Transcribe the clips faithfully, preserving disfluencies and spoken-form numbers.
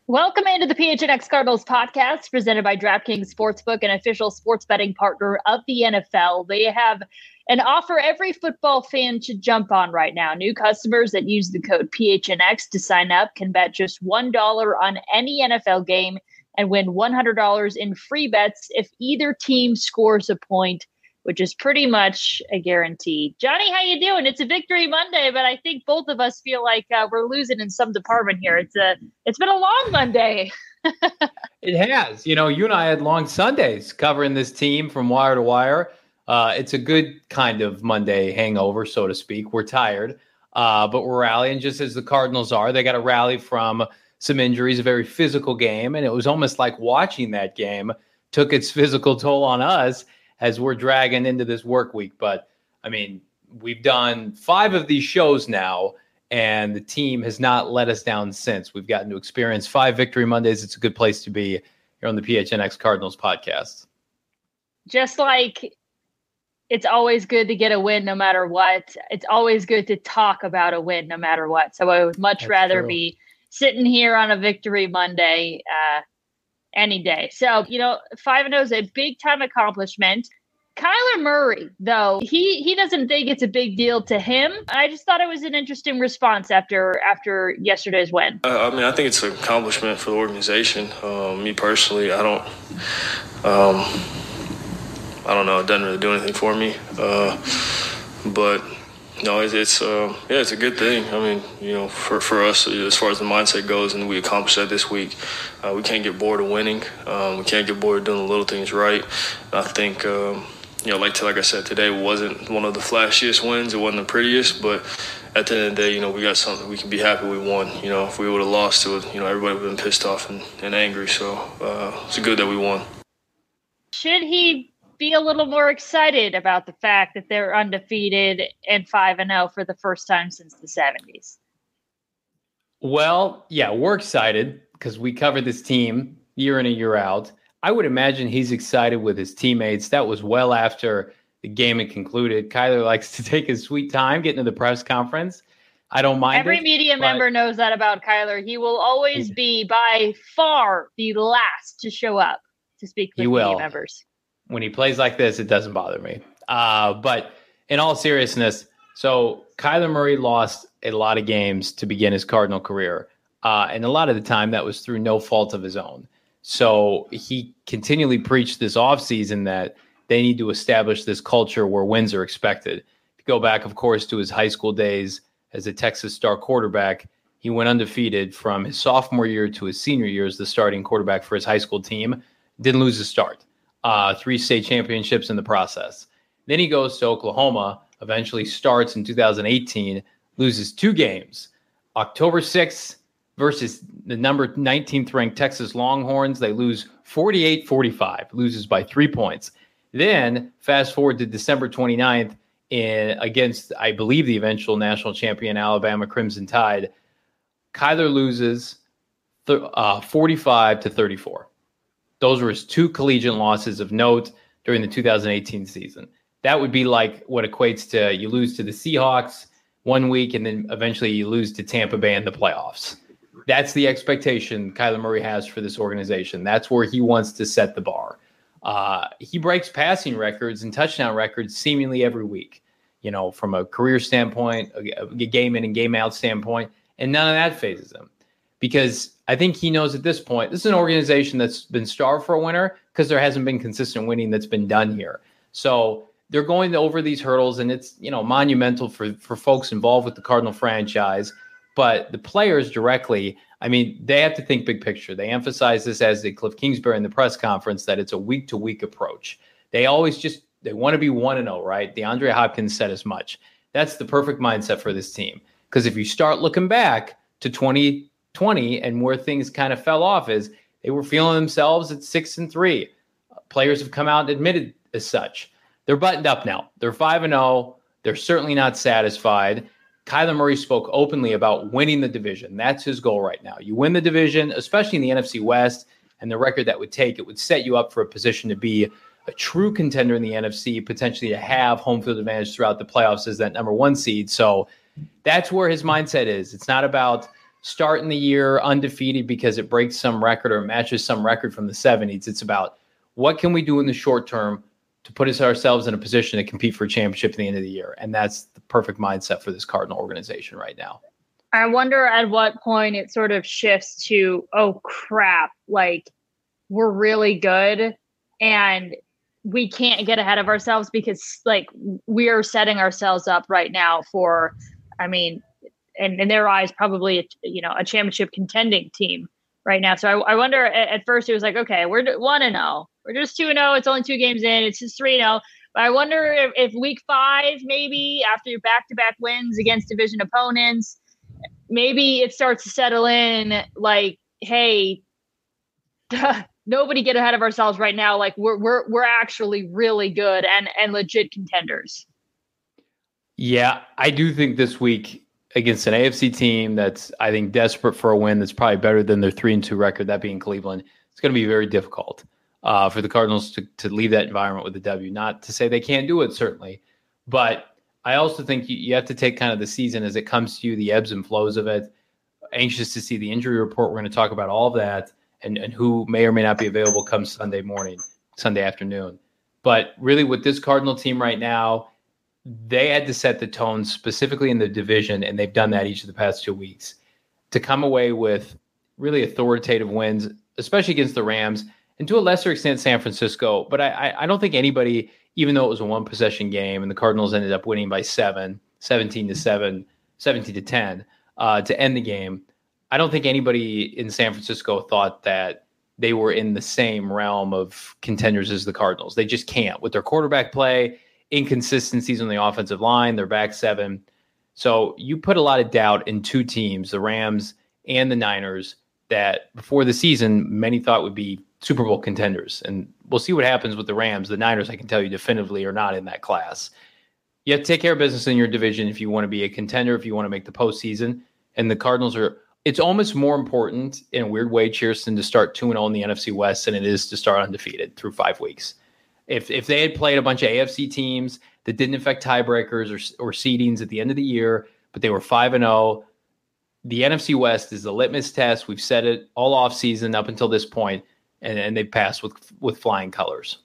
Welcome into the P H N X Cardinals podcast presented by DraftKings Sportsbook, an official sports betting partner of the N F L. They have an offer every football fan should jump on right now. New customers that use the code P H N X to sign up can bet just one dollar on any N F L game and win one hundred dollars in free bets if either team scores a point, which is pretty much a guarantee. Johnny, how you doing? It's a victory Monday, but I think both of us feel like uh, we're losing in some department here. It's a, it's been a long Monday. It has. You know, you and I had long Sundays covering this team from wire to wire. Uh, it's a good kind of Monday hangover, so to speak. We're tired, uh, but we're rallying just as the Cardinals are. They got to rally from some injuries, a very physical game, and it was almost like watching that game took its physical toll on us as we're dragging into this work week. But, I mean, we've done five of these shows now, and the team has not let us down since. We've gotten to experience five Victory Mondays. It's a good place to be here on the P H N X Cardinals podcast. Just like it's always good to get a win no matter what, it's always good to talk about a win no matter what. So I would much That's rather true. be sitting here on a Victory Monday uh, any day. So, you know, five and oh is a big time accomplishment. Kyler Murray, though, he he doesn't think it's a big deal to him. I just thought it was an interesting response after after yesterday's win. Uh, I mean, I think it's an accomplishment for the organization. Um, me personally, I don't, um, I don't know. It doesn't really do anything for me. Uh, but no, it's, it's uh, yeah, it's a good thing. I mean, you know, for, for us, as far as the mindset goes, and we accomplished that this week. Uh, we can't get bored of winning. Um, we can't get bored of doing the little things right. I think. Um, You know, like like I said, today wasn't one of the flashiest wins. It wasn't the prettiest, but at the end of the day, you know, we got something. We can be happy we won. You know, if we would have lost to it, you know, everybody would have been pissed off and, and angry. So uh, it's good that we won. Should he be a little more excited about the fact that they're undefeated and five and oh for the first time since the seventies? Well, yeah, we're excited because we covered this team year in and year out. I would imagine he's excited with his teammates. That was well after the game had concluded. Kyler likes to take his sweet time getting to the press conference. I don't mind Every it, media but member knows that about Kyler. He will always be by far the last to show up to speak with He will. media members. When he plays like this, it doesn't bother me. Uh, but in all seriousness, so Kyler Murray lost a lot of games to begin his Cardinal career. Uh, and a lot of the time that was through no fault of his own. So he continually preached this offseason that they need to establish this culture where wins are expected. If you go back, of course, to his high school days as a Texas star quarterback, he went undefeated from his sophomore year to his senior year as the starting quarterback for his high school team. Didn't lose a start. Uh, three state championships in the process. Then he goes to Oklahoma, eventually starts in two thousand eighteen, loses two games. October sixth, versus the number nineteenth ranked Texas Longhorns. They lose forty-eight forty-five, loses by three points. Then fast forward to December twenty-ninth in, against, I believe, the eventual national champion Alabama Crimson Tide. Kyler loses th- uh, forty-five to thirty-four. Those were his two collegiate losses of note during the two thousand eighteen season. That would be like what equates to you lose to the Seahawks one week and then eventually you lose to Tampa Bay in the playoffs. That's the expectation Kyler Murray has for this organization. That's where he wants to set the bar. Uh, he breaks passing records and touchdown records seemingly every week, you know, from a career standpoint, a, a game in and game out standpoint, and none of that phases him. Because I think he knows at this point, this is an organization that's been starved for a winner because there hasn't been consistent winning that's been done here. So they're going over these hurdles, and it's, you know, monumental for, for folks involved with the Cardinal franchise. But the players directly, I mean, they have to think big picture. They emphasize this, as did Cliff Kingsbury in the press conference, that it's a week-to-week approach. They always just, they want to be one and oh, right? DeAndre Hopkins said as much. That's the perfect mindset for this team. Because if you start looking back to twenty twenty and where things kind of fell off is they were feeling themselves at six and three. Players have come out and admitted as such. They're buttoned up now. They're five and oh. They're certainly not satisfied. Kyler Murray spoke openly about winning the division. That's his goal right now. You win the division, especially in the N F C West, and the record that would take, it would set you up for a position to be a true contender in the N F C, potentially to have home field advantage throughout the playoffs as that number one seed. So that's where his mindset is. It's not about starting the year undefeated because it breaks some record or matches some record from the seventies. It's about what can we do in the short term to put us ourselves in a position to compete for a championship at the end of the year. And that's the perfect mindset for this Cardinal organization right now. I wonder at what point it sort of shifts to, oh crap, like we're really good and we can't get ahead of ourselves because like we are setting ourselves up right now for, I mean, and in their eyes, probably, you know, a championship contending team right now. So I, I wonder at, at first it was like, okay, we're one and oh, we're just two and oh. It's only two games in. It's just three and oh. But I wonder if, if week five, maybe after your back-to-back wins against division opponents, maybe it starts to settle in like, hey, nobody get ahead of ourselves right now. Like we're, we're, we're actually really good and, and legit contenders. Yeah, I do think this week against an A F C team that's, I think, desperate for a win, that's probably better than their three and two record, that being Cleveland, it's going to be very difficult uh, for the Cardinals to, to leave that environment with a W. Not to say they can't do it, certainly, but I also think you, you have to take kind of the season as it comes to you, the ebbs and flows of it. Anxious to see the injury report. We're going to talk about all of that and, and who may or may not be available come Sunday morning, Sunday afternoon. But really with this Cardinal team right now, they had to set the tone specifically in the division, and they've done that each of the past two weeks to come away with really authoritative wins, especially against the Rams and to a lesser extent San Francisco. But I, I don't think anybody, even though it was a one possession game and the Cardinals ended up winning by seven, seventeen to seven, seventeen to ten uh, to end the game, I don't think anybody in San Francisco thought that they were in the same realm of contenders as the Cardinals. They just can't with their quarterback play, inconsistencies on the offensive line, their back seven. So you put a lot of doubt in two teams, the Rams and the Niners, that before the season, many thought would be Super Bowl contenders. And we'll see what happens with the Rams. The Niners, I can tell you definitively, are not in that class. You have to take care of business in your division if you want to be a contender, if you want to make the postseason. And the Cardinals are, it's almost more important in a weird way, Chierstin, to start two and oh in the N F C West than it is to start undefeated through five weeks. If if they had played a bunch of A F C teams that didn't affect tiebreakers or, or seedings at the end of the year, but they were five and oh, the N F C West is the litmus test. We've said it all offseason up until this point, and, and they've passed with with flying colors.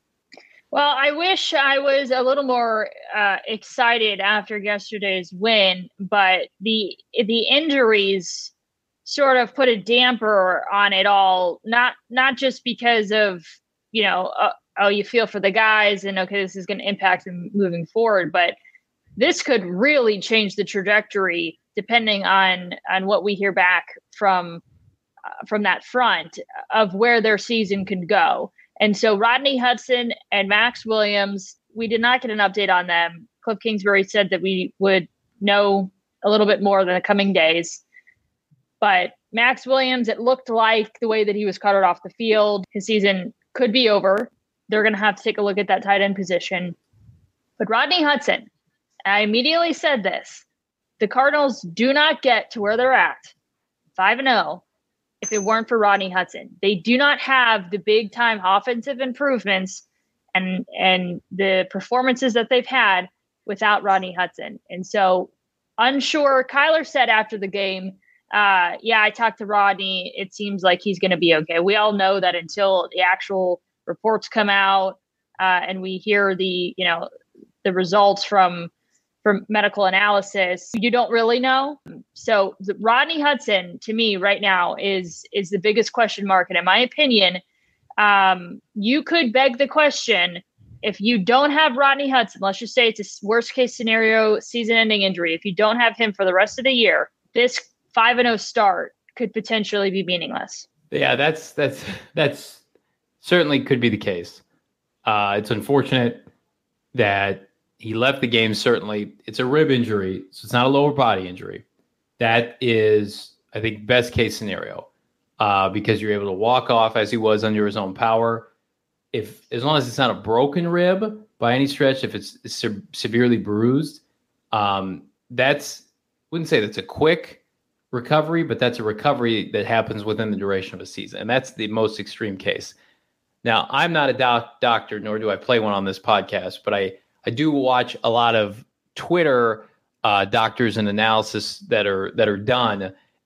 Well, I wish I was a little more uh, excited after yesterday's win, but the the injuries sort of put a damper on it all. Not not just because of, you know, uh, oh, you feel for the guys and okay, this is going to impact them moving forward, but this could really change the trajectory depending on on what we hear back from uh, from that front of where their season could go. And so Rodney Hudson and Max Williams, we did not get an update on them. Cliff Kingsbury said that we would know a little bit more in the coming days. But Max Williams, it looked like the way that he was carted off the field, his season could be over. They're going to have to take a look at that tight end position. But Rodney Hudson, I immediately said this, the Cardinals do not get to where they're at, five and oh, if it weren't for Rodney Hudson. They do not have the big time offensive improvements and and the performances that they've had without Rodney Hudson. And so unsure, Kyler said after the game, uh, yeah, I talked to Rodney. It seems like he's going to be okay. We all know that until the actual reports come out uh, and we hear the, you know, the results from from medical analysis, you don't really know. So the Rodney Hudson, to me right now, is is the biggest question mark. And in my opinion, um, you could beg the question, if you don't have Rodney Hudson, let's just say it's a worst case scenario, season ending injury. If you don't have him for the rest of the year, this five and oh start could potentially be meaningless. Yeah, that's, that's, that's certainly could be the case. Uh, it's unfortunate that he left the game. Certainly, it's a rib injury, so it's not a lower body injury. That is, I think, best case scenario uh, because you're able to walk off as he was under his own power. If as long as it's not a broken rib by any stretch, if it's se- severely bruised, um, that's wouldn't say that's a quick recovery, but that's a recovery that happens within the duration of a season, and that's the most extreme case. Now, I'm not a doc- doctor, nor do I play one on this podcast, but I. I do watch a lot of Twitter uh, doctors and analysis that are that are done,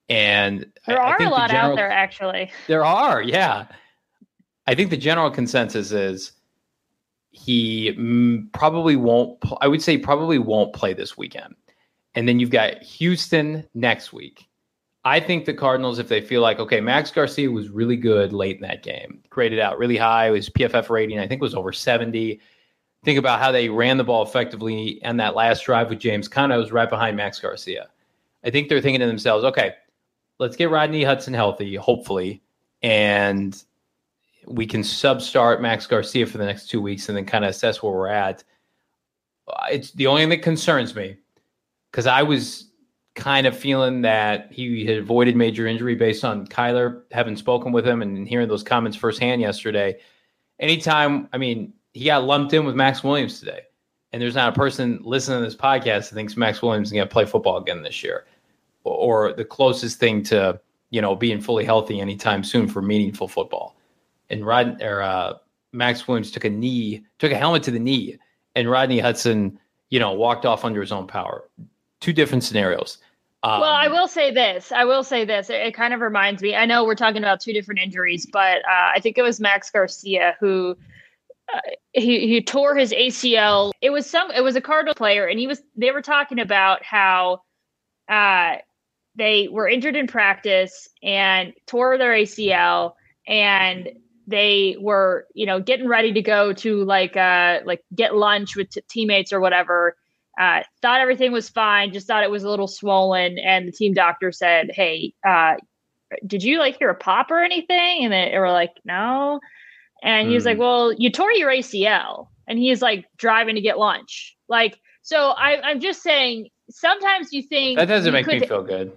And there I, are I think a lot the general, out there, actually. There are, yeah. I think the general consensus is he mm, probably won't, I would say probably won't play this weekend. And then you've got Houston next week. I think the Cardinals, if they feel like, okay, Max Garcia was really good late in that game, graded out really high. His P F F rating, I think, was over seventy. Think about how they ran the ball effectively and that last drive with James Conner was right behind Max Garcia. I think they're thinking to themselves, okay, let's get Rodney Hudson healthy, hopefully, and we can sub-start Max Garcia for the next two weeks and then kind of assess where we're at. It's the only thing that concerns me because I was kind of feeling that he had avoided major injury based on Kyler, having spoken with him and hearing those comments firsthand yesterday. Anytime, I mean, he got lumped in with Max Williams today, and there's not a person listening to this podcast that thinks Max Williams is going to play football again this year, or, or the closest thing to, you know, being fully healthy anytime soon for meaningful football. And Rod or uh, Max Williams took a knee, took a helmet to the knee, and Rodney Hudson, you know, walked off under his own power. Two different scenarios. Um, well, I will say this. I will say this. It, it kind of reminds me. I know we're talking about two different injuries, but uh, I think it was Max Garcia who uh, he he tore his A C L. It was some. It was a Cardinal player, and he was. They were talking about how uh, they were injured in practice and tore their A C L, and they were, you know, getting ready to go to like uh like get lunch with t- teammates or whatever. Uh, thought everything was fine, just thought it was a little swollen. And the team doctor said, hey, uh, did you like hear a pop or anything? And they were like, no. And he was mm. like, well, you tore your A C L. And he's like driving to get lunch. Like, so I, I'm just saying, sometimes you think that doesn't make could... me feel good.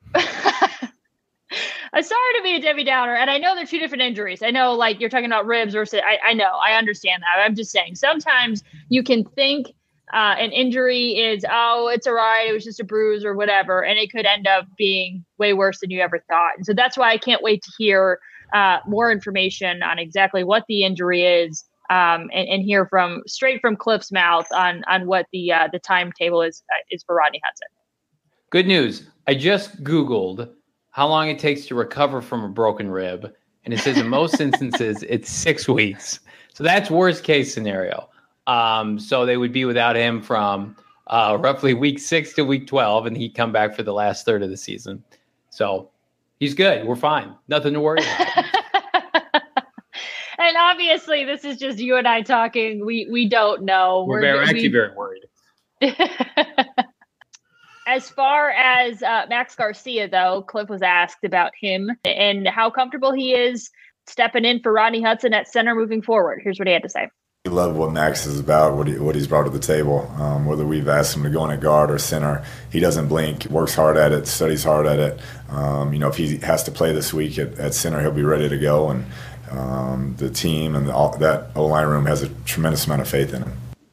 I'm sorry to be a Debbie Downer. And I know they're two different injuries. I know, like, you're talking about ribs versus, I, I know, I understand that. I'm just saying, sometimes you can think Uh, an injury is, oh, it's all right, it was just a bruise or whatever, and it could end up being way worse than you ever thought. And so that's why I can't wait to hear uh, more information on exactly what the injury is, um, and, and hear from straight from Cliff's mouth on on what the uh, the timetable is uh, is for Rodney Hudson. Good news. I just Googled how long it takes to recover from a broken rib, and it says in most instances it's six weeks. So that's worst case scenario. Um, so they would be without him from uh, roughly week six to week twelve, and he'd come back for the last third of the season. So he's good. We're fine. Nothing to worry about. And obviously, this is just you and I talking. We we don't know. We're, we're very, actually we, very worried. As far as uh, Max Garcia, though, Cliff was asked about him and how comfortable he is stepping in for Rodney Hudson at center moving forward. Here's what he had to say. We love what Max is about, what, he, what he's brought to the table. Um, whether we've asked him to go in at guard or center, he doesn't blink, works hard at it, studies hard at it. Um, you know, if he has to play this week at, at center, he'll be ready to go. And um, the team and the, all, that O-line room has a tremendous amount of faith in him.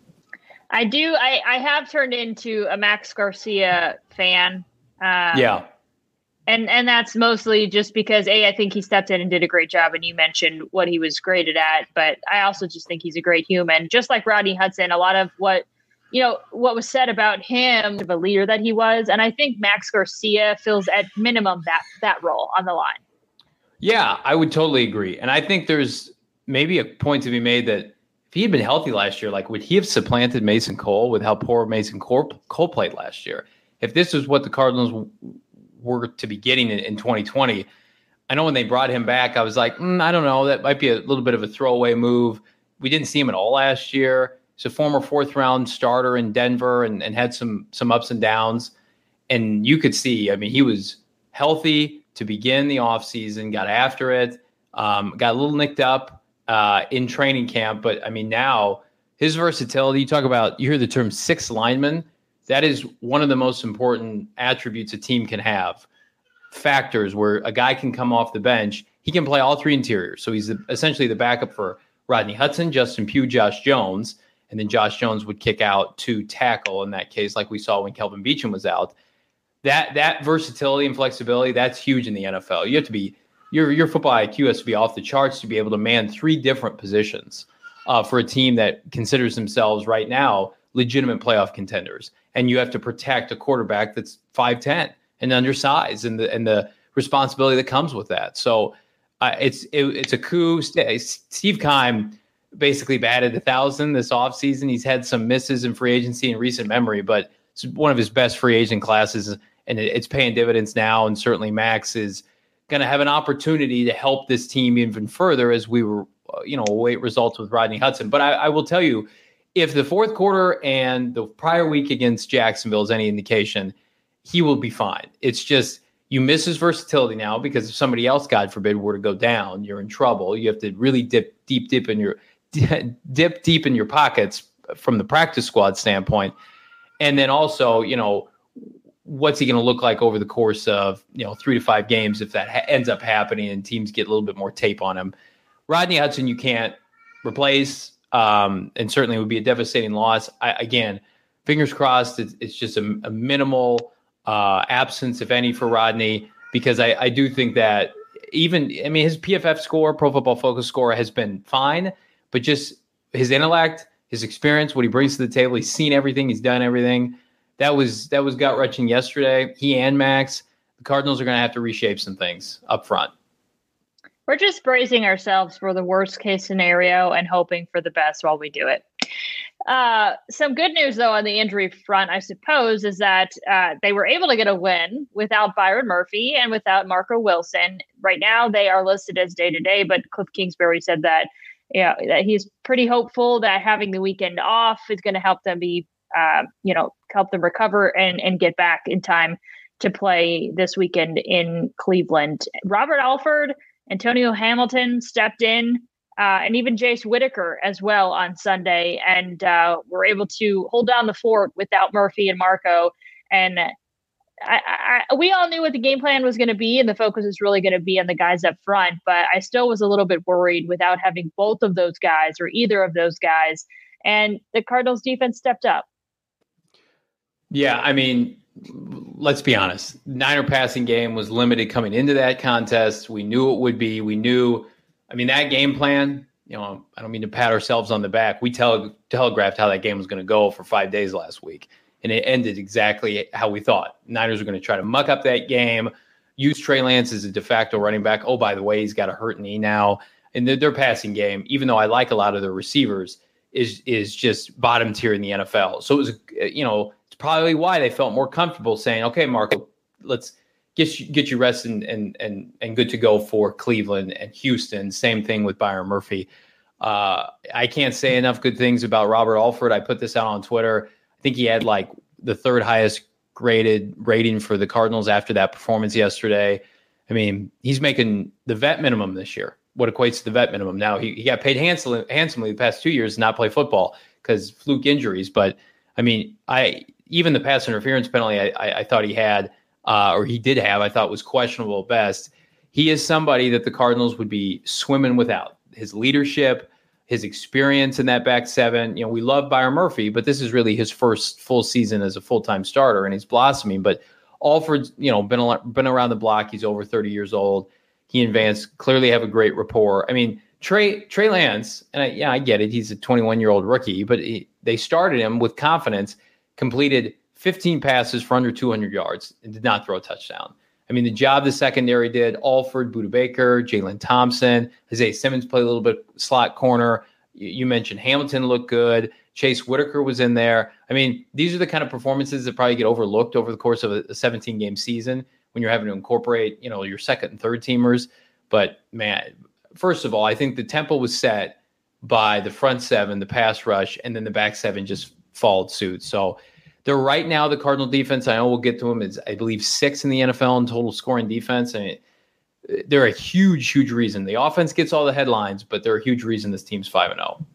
I do. I, I have turned into a Max Garcia fan. Um, yeah. And and that's mostly just because, A, I think he stepped in and did a great job, and you mentioned what he was graded at. But I also just think he's a great human. Just like Rodney Hudson, a lot of what, you know, what was said about him, the leader that he was. And I think Max Garcia fills at minimum that that role on the line. Yeah, I would totally agree. And I think there's maybe a point to be made that if he had been healthy last year, like would he have supplanted Mason Cole with how poor Mason Cole, Cole played last year? If this was what the Cardinals were to be getting in, in twenty twenty. I know when they brought him back, I was like, mm, I don't know, that might be a little bit of a throwaway move. We didn't see him at all last year. He's a former fourth round starter in Denver and, and had some some ups and downs. And you could see, I mean, he was healthy to begin the offseason, got after it, um, got a little nicked up uh, in training camp. But I mean, now his versatility, you talk about, you hear the term six lineman. That is one of the most important attributes a team can have. Factors where a guy can come off the bench. He can play all three interiors. So he's the, essentially the backup for Rodney Hudson, Justin Pugh, Josh Jones. And then Josh Jones would kick out to tackle in that case, like we saw when Kelvin Beachum was out. That that versatility and flexibility, that's huge in the N F L. You have to be, your, your football I Q has to be off the charts to be able to man three different positions uh, for a team that considers themselves right now legitimate playoff contenders. And you have to protect a quarterback that's five ten. and undersized, and the and the responsibility that comes with that. So uh, it's it, it's a coup. Steve Keim basically batted a thousand this offseason. He's had some misses in free agency in recent memory, but it's one of his best free agent classes, and it, it's paying dividends now. And certainly Max is going to have an opportunity to help this team even further as we were, you know, await results with Rodney Hudson. But I, I will tell you, if the fourth quarter and the prior week against Jacksonville is any indication, he will be fine. It's just you miss his versatility now because if somebody else, God forbid, were to go down, you're in trouble. You have to really dip deep, deep in your dip deep in your pockets from the practice squad standpoint. And then also, you know, what's he going to look like over the course of, you know, three to five games if that ha- ends up happening and teams get a little bit more tape on him. Rodney Hudson, you can't replace, um, and certainly would be a devastating loss. I, again, fingers crossed, it's, it's just a, a minimal uh, absence, if any, for Rodney, because I, I do think that even, I mean, his P F F score, Pro Football Focus score, has been fine, but just his intellect, his experience, what he brings to the table, he's seen everything, he's done everything. That was that was gut-wrenching yesterday. He and Max, the Cardinals are going to have to reshape some things up front. We're just bracing ourselves for the worst-case scenario and hoping for the best while we do it. Uh, some good news, though, on the injury front, I suppose, is that uh, they were able to get a win without Byron Murphy and without Marco Wilson. Right now, they are listed as day-to-day, but Cliff Kingsbury said that, you know, that he's pretty hopeful that having the weekend off is going to help them be Uh, you know, help them recover and, and get back in time to play this weekend in Cleveland. Robert Alford, Antonio Hamilton stepped in, uh, and even Jace Whitaker as well on Sunday, and uh, were able to hold down the fort without Murphy and Marco. And I, I, we all knew what the game plan was going to be, and the focus is really going to be on the guys up front. But I still was a little bit worried without having both of those guys or either of those guys. And the Cardinals defense stepped up. Yeah, I mean, let's be honest. Niner passing game was limited coming into that contest. We knew it would be. We knew, I mean, that game plan, you know, I don't mean to pat ourselves on the back. We tele- telegraphed how that game was going to go for five days last week, and it ended exactly how we thought. Niners were going to try to muck up that game, use Trey Lance as a de facto running back. Oh, by the way, he's got a hurt knee now. And their, their passing game, even though I like a lot of their receivers, is is just bottom tier in the N F L. So it was, you know, probably why they felt more comfortable saying, okay, Marco, let's get you, get you rest and, and, and, and good to go for Cleveland and Houston. Same thing with Byron Murphy. Uh, I can't say enough good things about Robert Alford. I put this out on Twitter. I think he had like the third highest graded rating for the Cardinals after that performance yesterday. I mean, he's making the vet minimum this year, what equates to the vet minimum. Now, he, he got paid handsomely, handsomely the past two years to not play football because fluke injuries. But, I mean, I – even the pass interference penalty I, I, I thought he had, uh, or he did have, I thought was questionable at best. He is somebody that the Cardinals would be swimming without. His leadership, his experience in that back seven. You know, we love Byron Murphy, but this is really his first full season as a full-time starter, and he's blossoming. But Alford's, you know, been, been around the block. He's over thirty years old. He and Vance clearly have a great rapport. I mean, Trey Trey Lance, and I, yeah, I get it. He's a twenty-one-year-old rookie, but he, they started him with confidence, completed fifteen passes for under two hundred yards and did not throw a touchdown. I mean, the job the secondary did, Alford, Budda Baker, Jalen Thompson, Isaiah Simmons played a little bit slot corner. You, you mentioned Hamilton looked good. Chase Whitaker was in there. I mean, these are the kind of performances that probably get overlooked over the course of a seventeen-game season when you're having to incorporate, you know, your second and third teamers. But, man, first of all, I think the tempo was set by the front seven, the pass rush, and then the back seven just followed suit. So they're right now, the Cardinal defense, I know we'll get to them, is I believe six in the N F L in total scoring defense. I mean, they're a huge, huge reason. The offense gets all the headlines, but they're a huge reason this team's five and oh.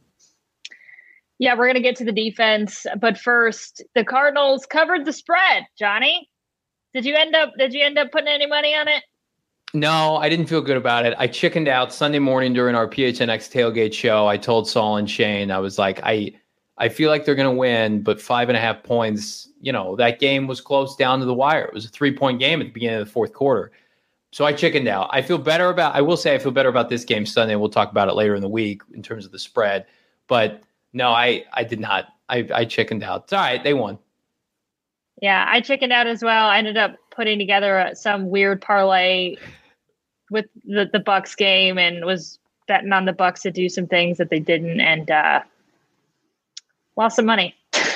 Yeah, we're going to get to the defense. But first, the Cardinals covered the spread. Johnny, did you end up did you end up putting any money on it? No, I didn't feel good about it. I chickened out Sunday morning during our P H N X tailgate show. I told Saul and Shane, I was like, I I feel like they're going to win, but five and a half points, you know, that game was close down to the wire. It was a three-point game at the beginning of the fourth quarter. So I chickened out. I feel better about, I will say I feel better about this game Sunday. We'll talk about it later in the week in terms of the spread. But no, I, I did not. I, I chickened out. It's all right. They won. Yeah, I chickened out as well. I ended up putting together some weird parlay with the, the Bucks game and was betting on the Bucks to do some things that they didn't, and uh, lost some money.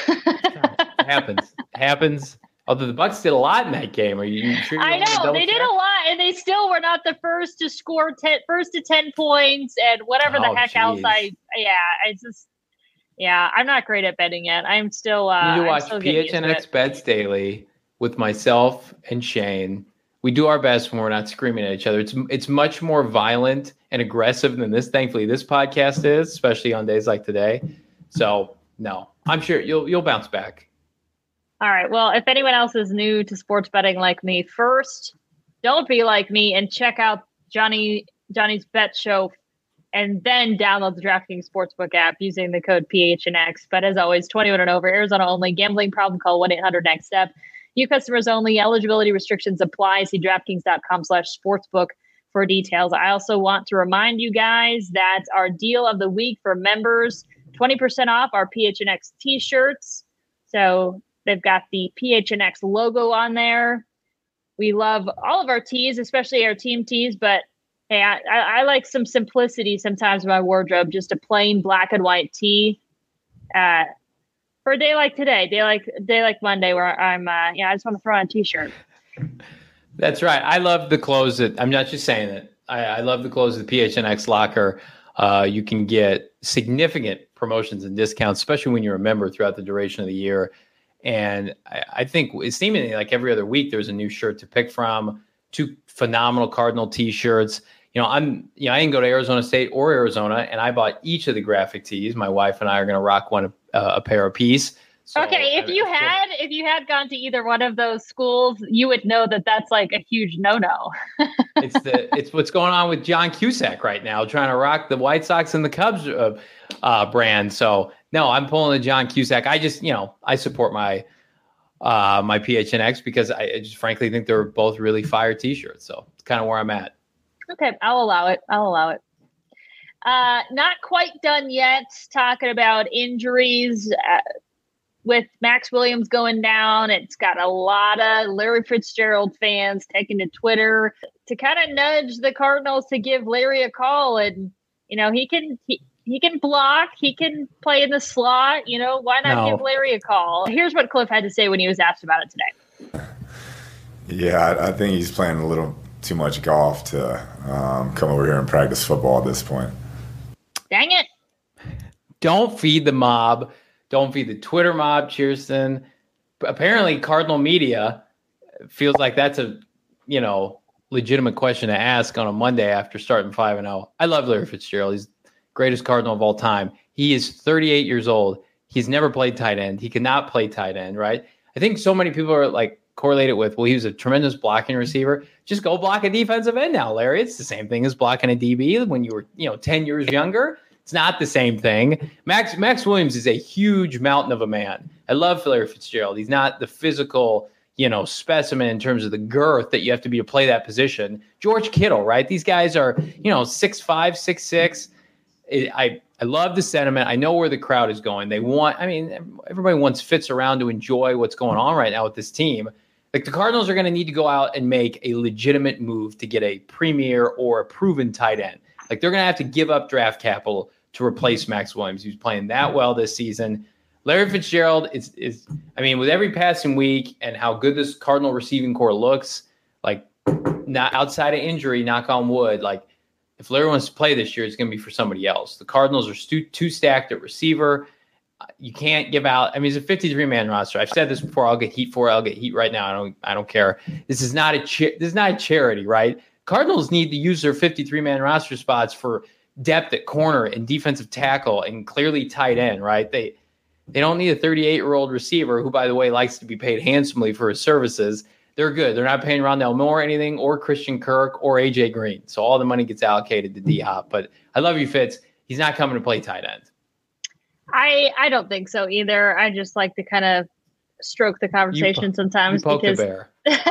It happens. It happens. Although the Bucks did a lot in that game. Are you sure? You I know they did a lot, and they still were not the first to score ten, first to ten points, and whatever the oh, heck geez. else. I yeah, it's just yeah, I'm not great at betting yet. I'm still. Uh, you need to I'm watch P H N X Bets Daily with myself and Shane. We do our best when we're not screaming at each other. It's it's much more violent and aggressive than this. Thankfully, this podcast is, especially on days like today. So no, I'm sure you'll you'll bounce back. All right. Well, if anyone else is new to sports betting like me, first, don't be like me and check out Johnny Johnny's Bet Show, and then download the DraftKings Sportsbook app using the code P H N X. But as always, twenty-one and over, Arizona only. Gambling problem? Call one eight hundred next step. New customers only. Eligibility restrictions apply. See DraftKings.com slash sportsbook for details. I also want to remind you guys that our deal of the week for members, twenty percent off our P H N X t-shirts. So they've got the P H N X logo on there. We love all of our tees, especially our team tees, but hey, I, I, I like some simplicity sometimes in my wardrobe, just a plain black and white tee. Uh, for a day like today, day like day like Monday, where I'm, uh, yeah, I just want to throw on a t-shirt. That's right. I love the clothes that I'm not just saying it. I, I love the clothes of the P H N X locker. Uh, you can get significant promotions and discounts, especially when you're a member throughout the duration of the year. And I, I think it's seemingly like every other week there's a new shirt to pick from. Two phenomenal Cardinal t-shirts. You know, I'm, you know, I didn't go to Arizona State or Arizona, and I bought each of the graphic tees. My wife and I are going to rock one, uh, a pair apiece. So, okay, if I, you I, had if you had gone to either one of those schools, you would know that that's like a huge no-no. it's the it's what's going on with John Cusack right now, trying to rock the White Sox and the Cubs uh, uh, brand. So no, I'm pulling the John Cusack. I just, you know, I support my uh, my P H N X because I just frankly think they're both really fire t-shirts. So it's kind of where I'm at. Okay, I'll allow it. I'll allow it. Uh, not quite done yet. Talking about injuries. Uh, With Max Williams going down, it's got a lot of Larry Fitzgerald fans taking to Twitter to kind of nudge the Cardinals to give Larry a call. And, you know, he can he, he can block. He can play in the slot. You know, why not no. give Larry a call? Here's what Cliff had to say when he was asked about it today. Yeah, I, I think he's playing a little too much golf to um, come over here and practice football at this point. Dang it. Don't feed the mob. Don't feed the Twitter mob, Cheerston. Apparently, Cardinal media feels like that's a, you know, legitimate question to ask on a Monday after starting five and zero. I love Larry Fitzgerald. He's the greatest Cardinal of all time. He is thirty-eight years old. He's never played tight end. He cannot play tight end, right? I think so many people are like correlated with, well, he was a tremendous blocking receiver. Just go block a defensive end now, Larry. It's the same thing as blocking a D B when you were, you know, ten years younger. It's not the same thing. Max Max Williams is a huge mountain of a man. I love Larry Fitzgerald. He's not the physical, you know, specimen in terms of the girth that you have to be to play that position. George Kittle, right? These guys are, you know, six five, six six. I I love the sentiment. I know where the crowd is going. They want, I mean, everybody wants Fitz around to enjoy what's going on right now with this team. Like the Cardinals are going to need to go out and make a legitimate move to get a premier or a proven tight end. Like they're going to have to give up draft capital to replace Max Williams, who's playing that well this season. Larry Fitzgerald is, is, I mean, with every passing week and how good this Cardinal receiving core looks, like not outside of injury, knock on wood, like if Larry wants to play this year, it's going to be for somebody else. The Cardinals are stu- too stacked at receiver. You can't give out. I mean, it's a fifty-three man roster. I've said this before. I'll get heat for it. I'll get heat right now. I don't. I don't care. This is not a. Cha- this is not a charity, right? Cardinals need to use their fifty-three man roster spots for depth at corner and defensive tackle and clearly tight end, right? They they don't need a thirty-eight year old receiver who, by the way, likes to be paid handsomely for his services. They're good. They're not paying Rondale Moore anything, or Christian Kirk, or A J Green. So all the money gets allocated to D-Hop. But I love you, Fitz. He's not coming to play tight end. I I don't think so either. I just like to kind of stroke the conversation you, sometimes you poke because. The bear.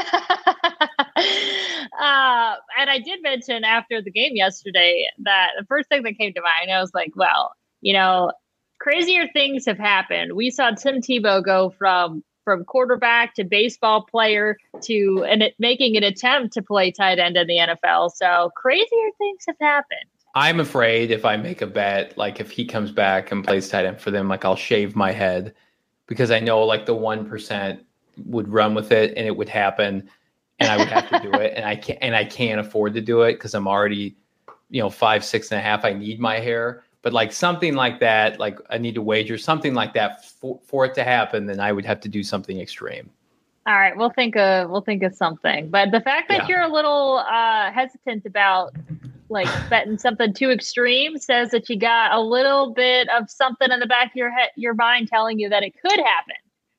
uh, and I did mention after the game yesterday that the first thing that came to mind, I was like, well, you know, crazier things have happened. We saw Tim Tebow go from from quarterback to baseball player to and it, making an attempt to play tight end in the N F L. So crazier things have happened. I'm afraid if I make a bet, like if he comes back and plays tight end for them, like I'll shave my head because I know like the one percent would run with it and it would happen and I would have to do it. And I can't, and I can't afford to do it because I'm already, you know, five, six and a half. I need my hair, but like something like that, like I need to wager something like that for, for it to happen. Then I would have to do something extreme. All right. We'll think of, we'll think of something, but the fact that yeah. you're a little uh, hesitant about like betting something too extreme says that you got a little bit of something in the back of your head, your mind telling you that it could happen.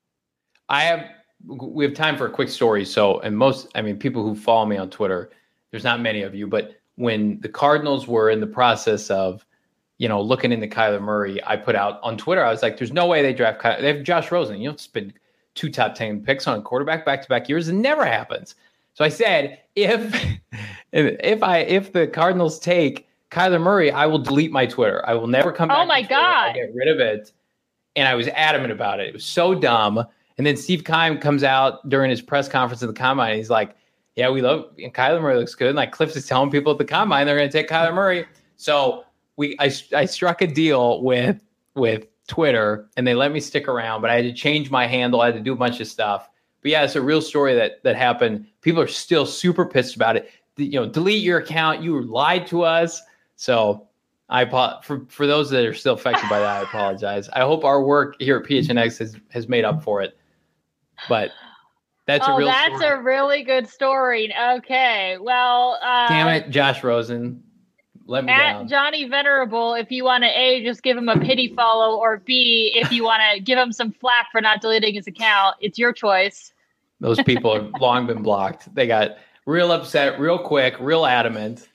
I have, we have time for a quick story. So, and most, I mean, people who follow me on Twitter, there's not many of you, but when the Cardinals were in the process of, you know, looking into Kyler Murray, I put out on Twitter, I was like, there's no way they draft Kyler. They have Josh Rosen. You don't spend two top ten picks on a quarterback back-to-back years. It never happens. So I said, if if I if the Cardinals take Kyler Murray, I will delete my Twitter. I will never come back. Oh my to Twitter. God. I'll get rid of it. And I was adamant about it. It was so dumb. And then Steve Keim comes out during his press conference at the Combine. And he's like, yeah, we love and Kyler Murray looks good. And like Cliff is telling people at the Combine they're going to take Kyler Murray. So we I, I struck a deal with with Twitter and they let me stick around, but I had to change my handle. I had to do a bunch of stuff. But yeah, it's a real story that that happened. People are still super pissed about it. You know, delete your account. You lied to us. So I for for those that are still affected by that, I apologize. I hope our work here at P H N X has, has made up for it. But that's oh, a real that's story. a really good story. Okay, well, uh, damn it, Josh Rosen. Let me at down. Johnny Venerable, if you want to A, just give him a pity follow, or B, if you want to give him some flack for not deleting his account, it's your choice. Those people have long been blocked. They got real upset, real quick, real adamant.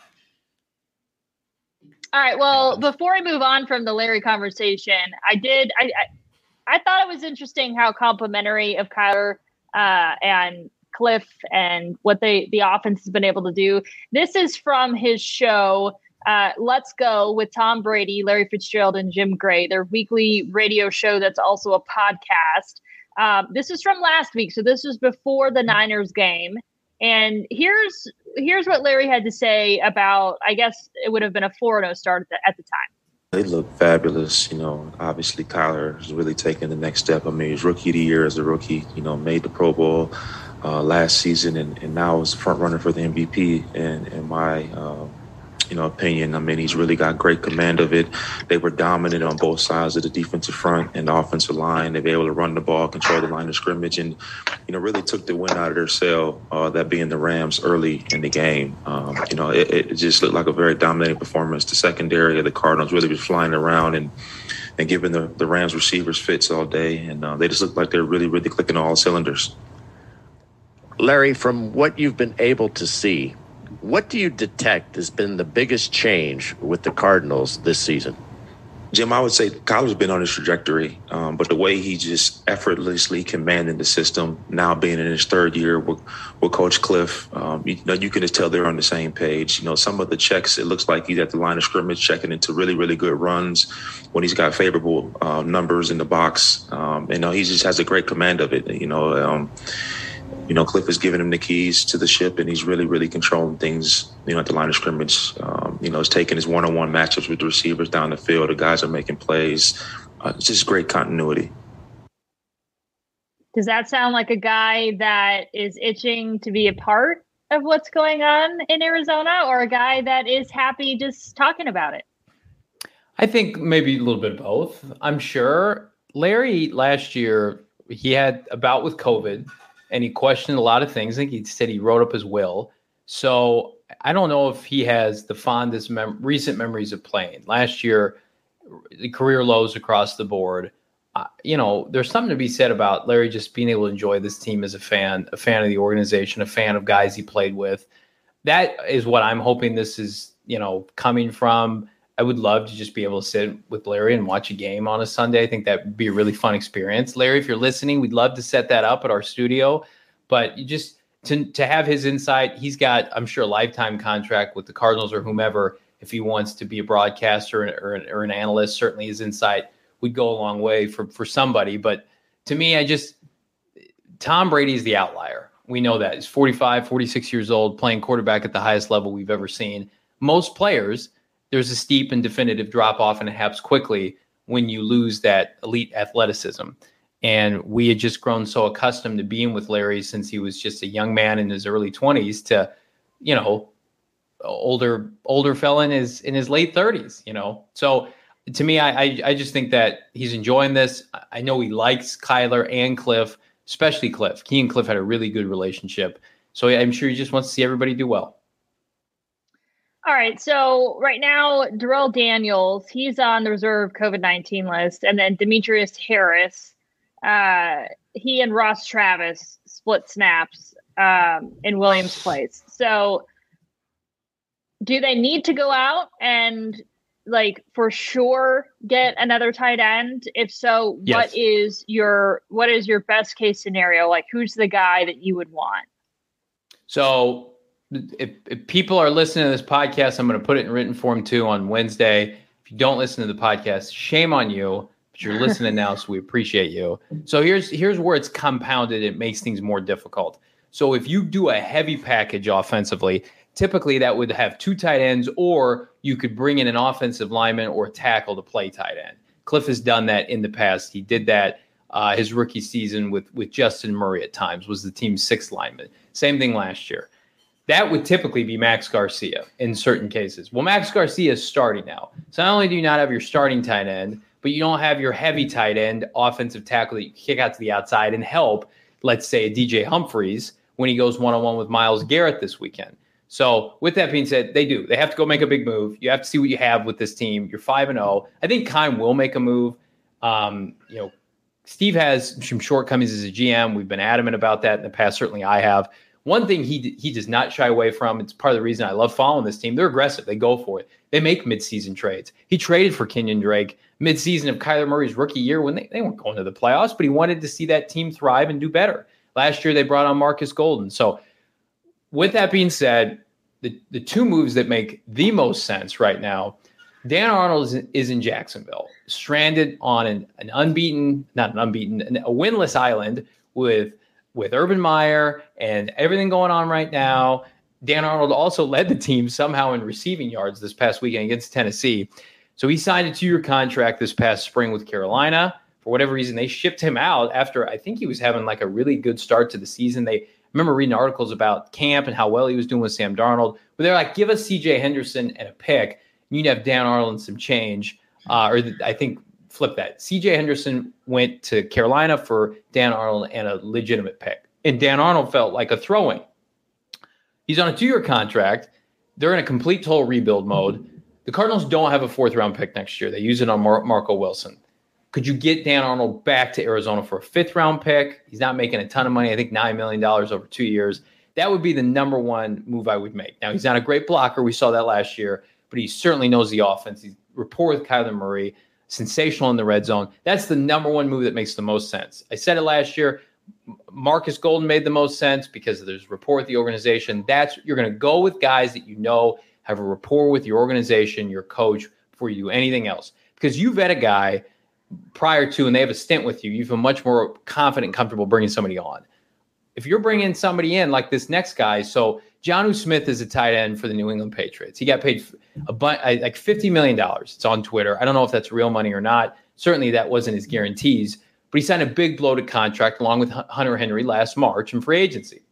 All right. Well, before I move on from the Larry conversation, I did. I I, I thought it was interesting how complimentary of Kyler uh, and Cliff and what they the offense has been able to do. This is from his show. Uh, Let's Go with Tom Brady, Larry Fitzgerald, and Jim Gray, their weekly radio show that's also a podcast. Um, this is from last week, so this was before the Niners game. And here's here's what Larry had to say about, I guess it would have been a four and oh start at the, at the time. They look fabulous. You know, obviously Kyler has really taken the next step. I mean, he's rookie of the year as a rookie, you know, made the Pro Bowl uh, last season and, and now is front runner for the M V P. And in my, uh, you know, opinion, I mean, he's really got great command of it. They were dominant on both sides of the defensive front and the offensive line. They were able to run the ball, control the line of scrimmage, and, you know, really took the win out of their sail, uh, that being the Rams early in the game. Um, you know, it, it just looked like a very dominating performance. The secondary of the Cardinals really was flying around and and giving the, the Rams receivers fits all day. And uh, they just looked like they're really, really clicking all cylinders. Larry, from what you've been able to see, what do you detect has been the biggest change with the Cardinals this season? Jim, I would say Kyler's been on his trajectory, um, but the way he just effortlessly commanding the system, now being in his third year with, with Coach Cliff, um, you know, you can just tell they're on the same page. You know, some of the checks, it looks like he's at the line of scrimmage checking into really, really good runs when he's got favorable uh, numbers in the box. Um, you know, he just has a great command of it, you know. Um, You know, Cliff is giving him the keys to the ship, and he's really, really controlling things, you know, at the line of scrimmage. Um, you know, he's taking his one-on-one matchups with the receivers down the field. The guys are making plays. Uh, it's just great continuity. Does that sound like a guy that is itching to be a part of what's going on in Arizona, or a guy that is happy just talking about it? I think maybe a little bit of both. I'm sure Larry last year, he had a bout with COVID. And he questioned a lot of things. I think he said he wrote up his will. So I don't know if he has the fondest mem- recent memories of playing. Last year, the career lows across the board. Uh, you know, there's something to be said about Larry just being able to enjoy this team as a fan, a fan of the organization, a fan of guys he played with. That is what I'm hoping this is, you know, coming from. I would love to just be able to sit with Larry and watch a game on a Sunday. I think that would be a really fun experience. Larry, if you're listening, we'd love to set that up at our studio. But you just to to have his insight, he's got, I'm sure, a lifetime contract with the Cardinals or whomever. If he wants to be a broadcaster or, or, or an analyst, certainly his insight would go a long way for, for somebody. But to me, I just Tom Brady is the outlier. We know that. He's forty-five, forty-six years old, playing quarterback at the highest level we've ever seen. Most players, there's a steep and definitive drop-off, and it happens quickly when you lose that elite athleticism. And we had just grown so accustomed to being with Larry since he was just a young man in his early twenties to, you know, older older fella in his in his late thirties, you know. So to me, I, I I just think that he's enjoying this. I know he likes Kyler and Cliff, especially Cliff. He and Cliff had a really good relationship. So I'm sure he just wants to see everybody do well. All right. So right now, Darrell Daniels, he's on the reserve COVID nineteen list. And then Demetrius Harris, uh, he and Ross Travis split snaps um, in Williams' place. So do they need to go out and, like, for sure get another tight end? If so, yes. what is your what is your best case scenario? Like, who's the guy that you would want? So if, if people are listening to this podcast, I'm going to put it in written form too on Wednesday. If you don't listen to the podcast, shame on you, but you're listening now, so we appreciate you. So here's here's where it's compounded. It makes things more difficult. So if you do a heavy package offensively, typically that would have two tight ends, or you could bring in an offensive lineman or a tackle to play tight end. Cliff has done that in the past. He did that uh, his rookie season with, with Justin Murray at times, was the team's sixth lineman. Same thing last year. That would typically be Max Garcia in certain cases. Well, Max Garcia is starting now. So not only do you not have your starting tight end, but you don't have your heavy tight end offensive tackle that you kick out to the outside and help, let's say, a D J Humphries when he goes one-on-one with Myles Garrett this weekend. So with that being said, they do. They have to go make a big move. You have to see what you have with this team. You're five and oh. I think Keim will make a move. Um, you know, Steve has some shortcomings as a G M. We've been adamant about that in the past. Certainly I have. One thing he he does not shy away from, it's part of the reason I love following this team, they're aggressive. They go for it. They make midseason trades. He traded for Kenyon Drake midseason of Kyler Murray's rookie year when they, they weren't going to the playoffs, but he wanted to see that team thrive and do better. Last year they brought on Marcus Golden. So with that being said, the, the two moves that make the most sense right now, Dan Arnold is, is in Jacksonville, stranded on an, an unbeaten, not an unbeaten, an, a winless island with with Urban Meyer and everything going on right now. Dan Arnold also led the team somehow in receiving yards this past weekend against Tennessee. So he signed a two-year contract this past spring with Carolina. For whatever reason, they shipped him out after I think he was having like a really good start to the season. They I remember reading articles about camp and how well he was doing with Sam Darnold. But they're like, give us C J Henderson and a pick. You'd have Dan Arnold and some change. Uh, or the, I think flip that. C J Henderson went to Carolina for Dan Arnold and a legitimate pick. And Dan Arnold felt like a throw-in. He's on a two-year contract. They're in a complete total rebuild mode. The Cardinals don't have a fourth-round pick next year. They use it on Mar- Marco Wilson. Could you get Dan Arnold back to Arizona for a fifth-round pick? He's not making a ton of money. I think nine million dollars over two years. That would be the number one move I would make. Now, he's not a great blocker. We saw that last year. But he certainly knows the offense. He's rapport with Kyler Murray, sensational in the red zone. That's the number one move that makes the most sense. I said it last year. Marcus Golden made the most sense because there's rapport with the organization. That's you're going to go with guys that you know have a rapport with your organization, your coach, before you do anything else. Because you vet a guy prior to and they have a stint with you, you feel much more confident and comfortable bringing somebody on. If you're bringing somebody in like this next guy, so Jonnu Smith is a tight end for the New England Patriots. He got paid a bunch, like fifty million dollars. It's on Twitter. I don't know if that's real money or not. Certainly that wasn't his guarantees, but he signed a big bloated contract along with Hunter Henry last March in free agency.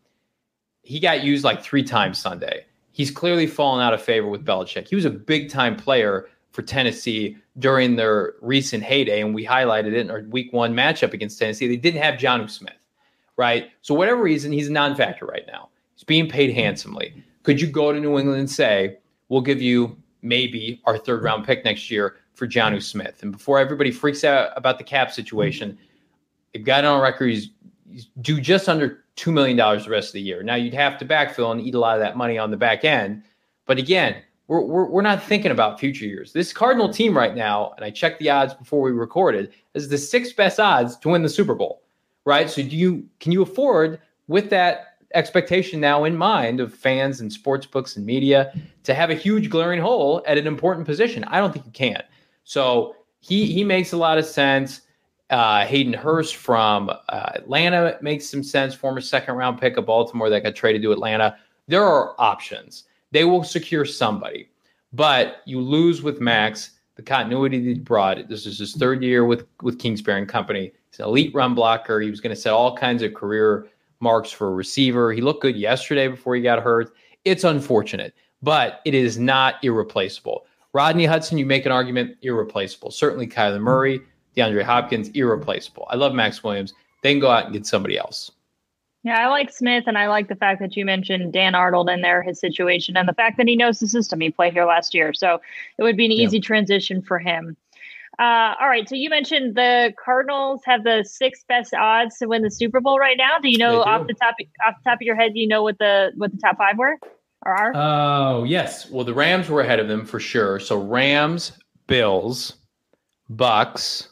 He got used like three times Sunday. He's clearly fallen out of favor with Belichick. He was a big time player for Tennessee during their recent heyday, and we highlighted it in our week one matchup against Tennessee. They didn't have Jonnu Smith, right? So whatever reason, he's a non-factor right now. He's being paid handsomely. Could you go to New England and say, we'll give you maybe our third round pick next year for Jonnu Smith? And before everybody freaks out about the cap situation, they've got it on record. He's, he's due just under two million dollars the rest of the year. Now you'd have to backfill and eat a lot of that money on the back end. But again, we're, we're, we're not thinking about future years. This Cardinal team right now, and I checked the odds before we recorded, is the sixth best odds to win the Super Bowl, right? So do you can you afford, with that expectation now in mind of fans and sports books and media, to have a huge glaring hole at an important position? I don't think you can. So he he makes a lot of sense. Uh, Hayden Hurst from uh, Atlanta makes some sense. Former second round pick of Baltimore that got traded to Atlanta. There are options. They will secure somebody, but you lose with Max. The continuity that he brought. This is his third year with with Kingsbury and Company. He's an elite run blocker. He was going to set all kinds of career marks for a receiver. He looked good yesterday before he got hurt. It's unfortunate, but it is not irreplaceable. Rodney Hudson, you make an argument, irreplaceable. Certainly Kyler Murray, DeAndre Hopkins, irreplaceable. I love Max Williams. They can go out and get somebody else. Yeah, I like Smith, and I like the fact that you mentioned Dan Arnold in there, his situation, and the fact that he knows the system. He played here last year, so it would be an easy yeah. transition for him. Uh, all right, so you mentioned the Cardinals have the sixth best odds to win the Super Bowl right now. Do you know do. off the top off the top of your head? Do you know what the what the top five were or are? Oh yes, well the Rams were ahead of them for sure. So Rams, Bills, Bucks,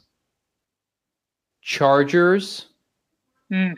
Chargers. Hmm.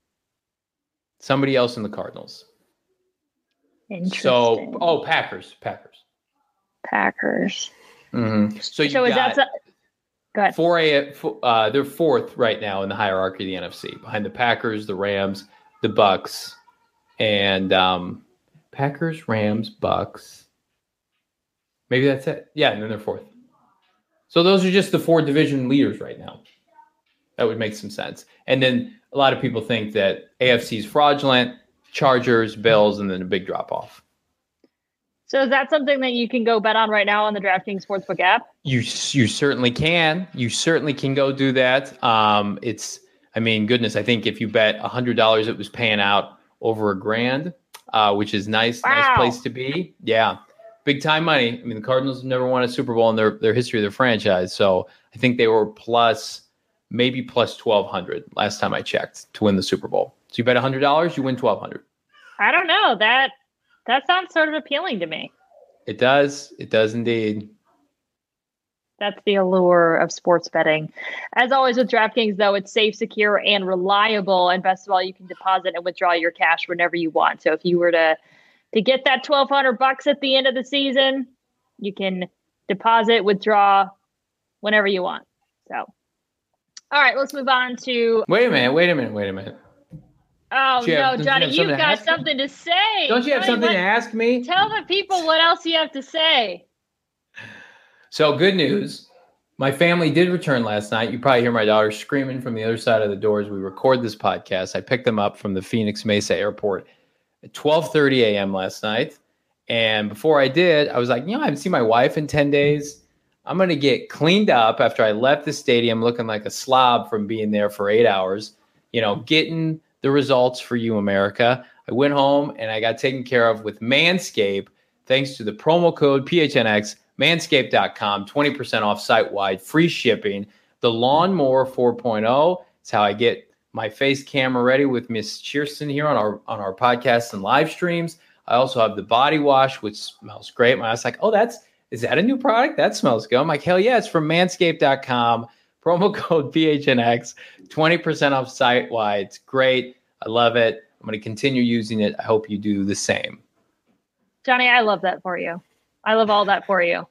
Somebody else in the Cardinals. Interesting. So, oh, Packers, Packers, Packers. Mm-hmm. So you so is got that? Go ahead. Four A. Uh, they're fourth right now in the hierarchy of the N F C, behind the Packers, the Rams, the Bucks, and um, Packers, Rams, Bucks. Maybe that's it. Yeah, and then they're fourth. So those are just the four division leaders right now. That would make some sense. And then a lot of people think that A F C is fraudulent, Chargers, Bills, and then a big drop off. So is that something that you can go bet on right now on the DraftKings Sportsbook app? You you certainly can. You certainly can go do that. Um, it's, I mean, goodness, I think if you bet one hundred dollars, it was paying out over a grand, uh, which is nice, wow. nice place to be. Yeah, big time money. I mean, the Cardinals have never won a Super Bowl in their, their history of their franchise. So I think they were plus, maybe plus twelve hundred last time I checked to win the Super Bowl. So you bet one hundred dollars, you win twelve hundred. I don't know. That that sounds sort of appealing to me. It does. It does indeed. That's the allure of sports betting. As always with DraftKings, though, it's safe, secure, and reliable. And best of all, you can deposit and withdraw your cash whenever you want. So if you were to to get that twelve hundred bucks at the end of the season, you can deposit, withdraw whenever you want. So, all right, let's move on to. Wait a minute. Wait a minute. Wait a minute. Oh, you no, have, Johnny, you you've got something to say. Don't you have Johnny, something what, to ask me? Tell the people what else you have to say. So good news. My family did return last night. You probably hear my daughter screaming from the other side of the door as we record this podcast. I picked them up from the Phoenix Mesa airport at twelve thirty a.m. last night. And before I did, I was like, you know, I haven't seen my wife in ten days. I'm going to get cleaned up after I left the stadium looking like a slob from being there for eight hours, you know, getting the results for you, America. I went home and I got taken care of with Manscaped, thanks to the promo code P H N X, manscaped dot com, twenty percent off site-wide, free shipping. The Lawnmower four point oh, it's how I get my face camera ready with Miss Cheerson here on our on our podcasts and live streams. I also have the body wash, which smells great. I was like, oh, that's, is that a new product? That smells good. I'm like, hell yeah, it's from manscaped dot com. Promo code P H N X, twenty percent off site-wide. It's great. I love it. I'm going to continue using it. I hope you do the same. Johnny, I love that for you. I love all that for you.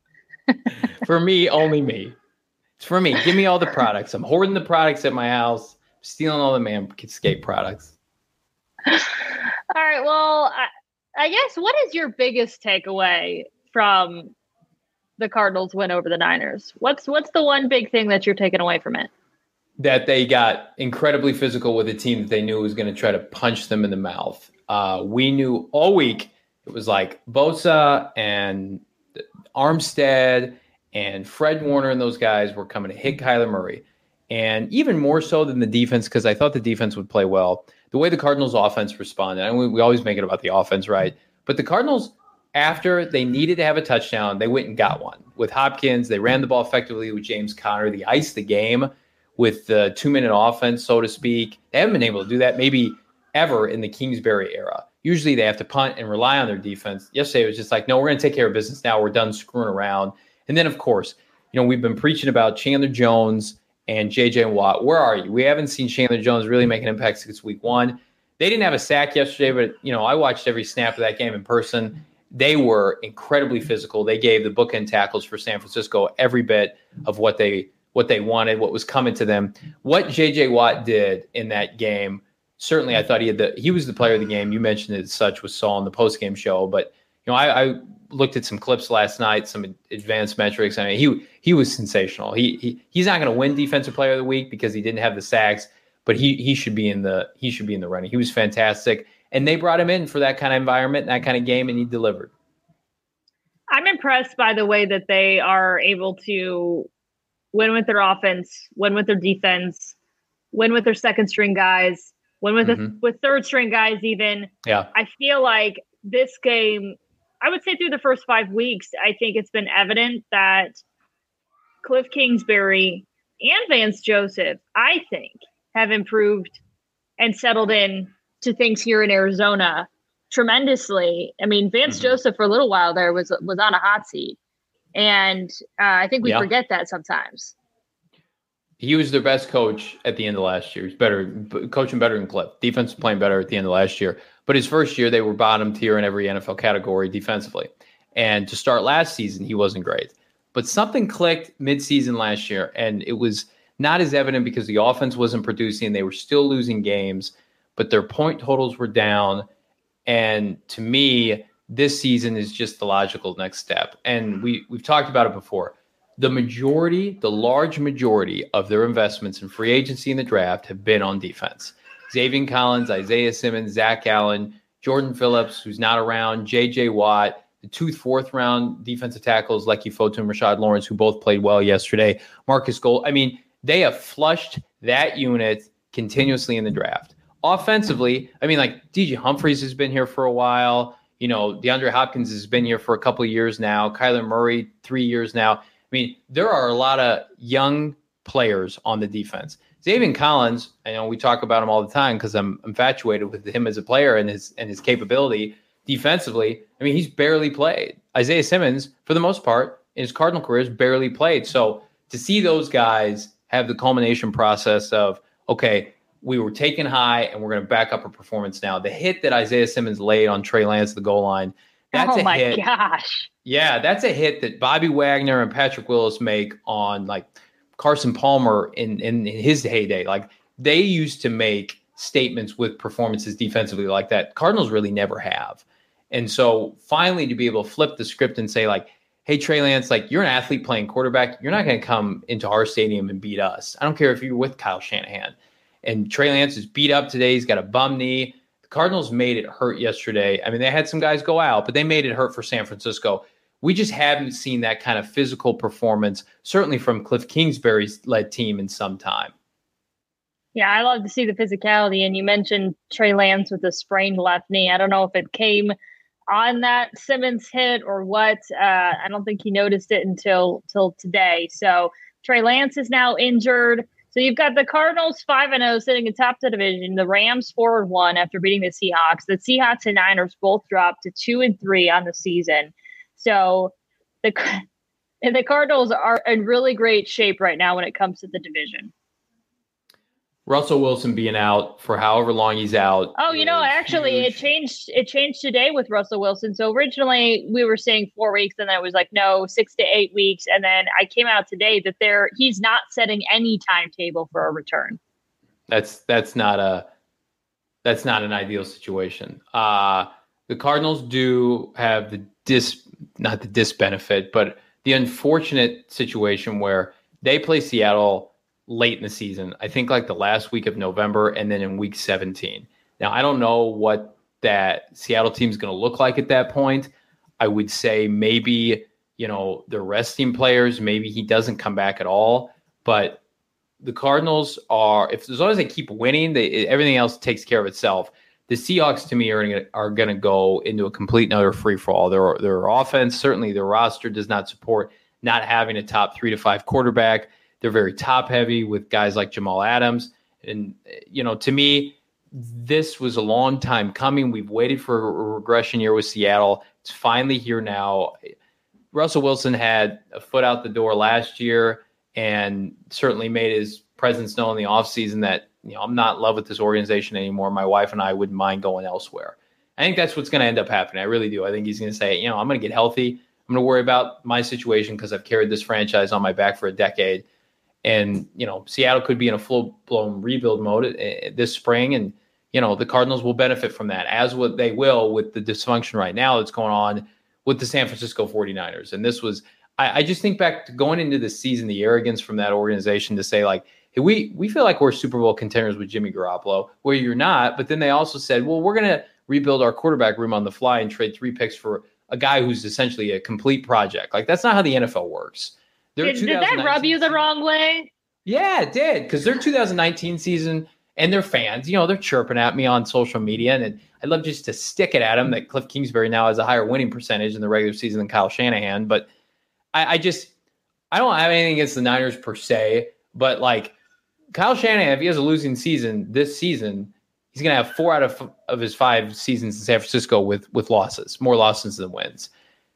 For me, only me. It's for me. Give me all the products. I'm hoarding the products at my house. I'm stealing all the Manscaped products. All right. Well, I, I guess what is your biggest takeaway from the Cardinals win over the Niners? What's what's the one big thing that you're taking away from it? That they got incredibly physical with a team that they knew was going to try to punch them in the mouth. Uh, we knew all week it was like Bosa and Armstead and Fred Warner and those guys were coming to hit Kyler Murray. And even more so than the defense, because I thought the defense would play well, the way the Cardinals offense responded, and we, we always make it about the offense, right? But the Cardinals, after they needed to have a touchdown, they went and got one. With Hopkins, they ran the ball effectively with James Conner. They iced the game with the two-minute offense, so to speak. They haven't been able to do that maybe ever in the Kingsbury era. Usually they have to punt and rely on their defense. Yesterday it was just like, no, we're going to take care of business now. We're done screwing around. And then, of course, you know, we've been preaching about Chandler Jones and J J Watt. Where are you? We haven't seen Chandler Jones really make an impact since week one. They didn't have a sack yesterday, but, you know, I watched every snap of that game in person. They were incredibly physical. They gave the bookend tackles for San Francisco every bit of what they what they wanted, what was coming to them. What J J Watt did in that game, certainly I thought he had the he was the player of the game. You mentioned it as such with Saul in the post-game show, but you know, I, I looked at some clips last night, some advanced metrics. I mean, he he was sensational. He he he's not going to win Defensive Player of the Week because he didn't have the sacks, but he he should be in the he should be in the running. He was fantastic, and they brought him in for that kind of environment, that kind of game, and he delivered. I'm impressed by the way that they are able to win with their offense, win with their defense, win with their second string guys, win with mm-hmm. the, with third string guys even. Yeah. I feel like this game, I would say through the first five weeks, I think it's been evident that Cliff Kingsbury and Vance Joseph, I think, have improved and settled in to things here in Arizona tremendously. I mean, Vance mm-hmm. Joseph for a little while there was was on a hot seat. And uh, I think we yeah. forget that sometimes. He was their best coach at the end of last year. He's better, coaching better than Cliff. Defense playing better at the end of last year. But his first year, they were bottom tier in every N F L category defensively. And to start last season, he wasn't great. But something clicked midseason last year, and it was not as evident because the offense wasn't producing. They were still losing games, but their point totals were down. And to me, this season is just the logical next step. And we, we've talked about it before. The majority, the large majority of their investments in free agency and the draft have been on defense. Zaven Collins, Isaiah Simmons, Zach Allen, Jordan Phillips, who's not around, J J Watt, the two fourth round defensive tackles, Lecky Fotu and Rashad Lawrence, who both played well yesterday, Marcus Gold. I mean, they have flushed that unit continuously in the draft. Offensively, I mean, like D J Humphries has been here for a while. You know, DeAndre Hopkins has been here for a couple of years now. Kyler Murray, three years now. I mean, there are a lot of young players on the defense. Zaven Collins, I know we talk about him all the time because I'm infatuated with him as a player and his and his capability defensively. I mean, he's barely played. Isaiah Simmons, for the most part, in his Cardinal career, has barely played. So to see those guys have the culmination process of, okay, we were taken high and we're going to back up our performance now. The hit that Isaiah Simmons laid on Trey Lance at the goal line, that's oh a my hit. gosh. Yeah, that's a hit that Bobby Wagner and Patrick Willis make on like Carson Palmer in, in, in his heyday. Like they used to make statements with performances defensively like that. Cardinals really never have. And so finally to be able to flip the script and say like, hey, Trey Lance, like you're an athlete playing quarterback. You're not going to come into our stadium and beat us. I don't care if you're with Kyle Shanahan. And Trey Lance is beat up today. He's got a bum knee. The Cardinals made it hurt yesterday. I mean, they had some guys go out, but they made it hurt for San Francisco. We just haven't seen that kind of physical performance, certainly from Cliff Kingsbury's led team in some time. Yeah, I love to see the physicality. And you mentioned Trey Lance with a sprained left knee. I don't know if it came on that Simmons hit or what. Uh, I don't think he noticed it until, until today. So Trey Lance is now injured. So you've got the Cardinals five and oh sitting atop the division, the Rams four and one after beating the Seahawks. The Seahawks and Niners both dropped to two and three on the season. So the and the Cardinals are in really great shape right now when it comes to the division. Russell Wilson being out for however long he's out. Oh, you know, actually huge. it changed. It changed today with Russell Wilson. So originally we were saying four weeks, and then it was like no, six to eight weeks. And then I came out today that there he's not setting any timetable for a return. That's that's not a that's not an ideal situation. Uh, the Cardinals do have the dis not the disbenefit, but the unfortunate situation where they play Seattle late in the season, I think like the last week of November and then in week seventeen. Now, I don't know what that Seattle team is going to look like at that point. I would say maybe, you know, they're resting players. Maybe he doesn't come back at all. But the Cardinals are, if as long as they keep winning, they, everything else takes care of itself. The Seahawks, to me, are gonna, are going to go into a complete and utter free-for-all. Their, their offense, certainly their roster does not support not having a top three to five quarterback. They're very top-heavy with guys like Jamal Adams. And, you know, to me, this was a long time coming. We've waited for a regression year with Seattle. It's finally here now. Russell Wilson had a foot out the door last year and certainly made his presence known in the offseason that, you know, I'm not in love with this organization anymore. My wife and I wouldn't mind going elsewhere. I think that's what's going to end up happening. I really do. I think he's going to say, you know, I'm going to get healthy. I'm going to worry about my situation because I've carried this franchise on my back for a decade. And, you know, Seattle could be in a full-blown rebuild mode uh, this spring. And, you know, the Cardinals will benefit from that, as what they will with the dysfunction right now that's going on with the San Francisco forty-niners. And this was, I, I just think back to going into the season, the arrogance from that organization to say, like, hey, we, we feel like we're Super Bowl contenders with Jimmy Garoppolo, where you're not. But then they also said, well, we're going to rebuild our quarterback room on the fly and trade three picks for a guy who's essentially a complete project. Like, that's not how the N F L works. Did, did that rub you the wrong way? Yeah, it did. Because their two thousand nineteen season and their fans, you know, they're chirping at me on social media. And, and I'd love just to stick it at them that Cliff Kingsbury now has a higher winning percentage in the regular season than Kyle Shanahan. But I, I just, I don't have anything against the Niners per se. But, like, Kyle Shanahan, if he has a losing season this season, he's going to have four out of, of his five seasons in San Francisco with with losses, more losses than wins.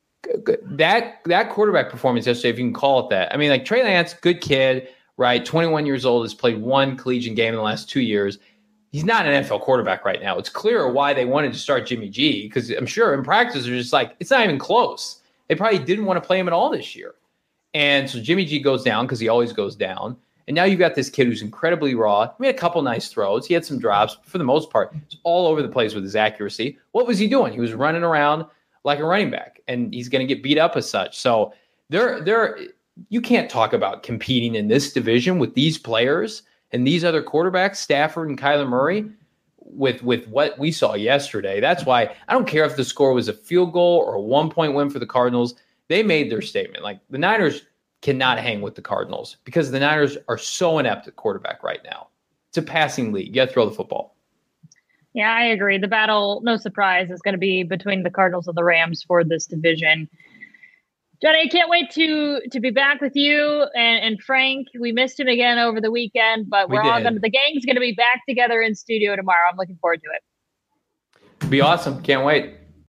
That that quarterback performance yesterday, if you can call it that. I mean, like, Trey Lance, good kid, right? twenty-one years old, has played one collegiate game in the last two years. He's not an N F L quarterback right now. It's clear why they wanted to start Jimmy G, because I'm sure in practice they're just like, it's not even close. They probably didn't want to play him at all this year. And so Jimmy G goes down because he always goes down. And now you've got this kid who's incredibly raw. He made a couple nice throws. He had some drops. But for the most part, he's all over the place with his accuracy. What was he doing? He was running around like a running back, and he's going to get beat up as such. So there, there, you can't talk about competing in this division with these players and these other quarterbacks, Stafford and Kyler Murray, with, with what we saw yesterday. That's why I don't care if the score was a field goal or a one-point win for the Cardinals. They made their statement. Like, the Niners cannot hang with the Cardinals because the Niners are so inept at quarterback right now. It's a passing league. You got to throw the football. Yeah, I agree. The battle, no surprise, is going to be between the Cardinals and the Rams for this division. Johnny, I can't wait to to be back with you and, and Frank. We missed him again over the weekend, but we're we all going to, the gang's going to be back together in studio tomorrow. I'm looking forward to it. Be awesome. Can't wait.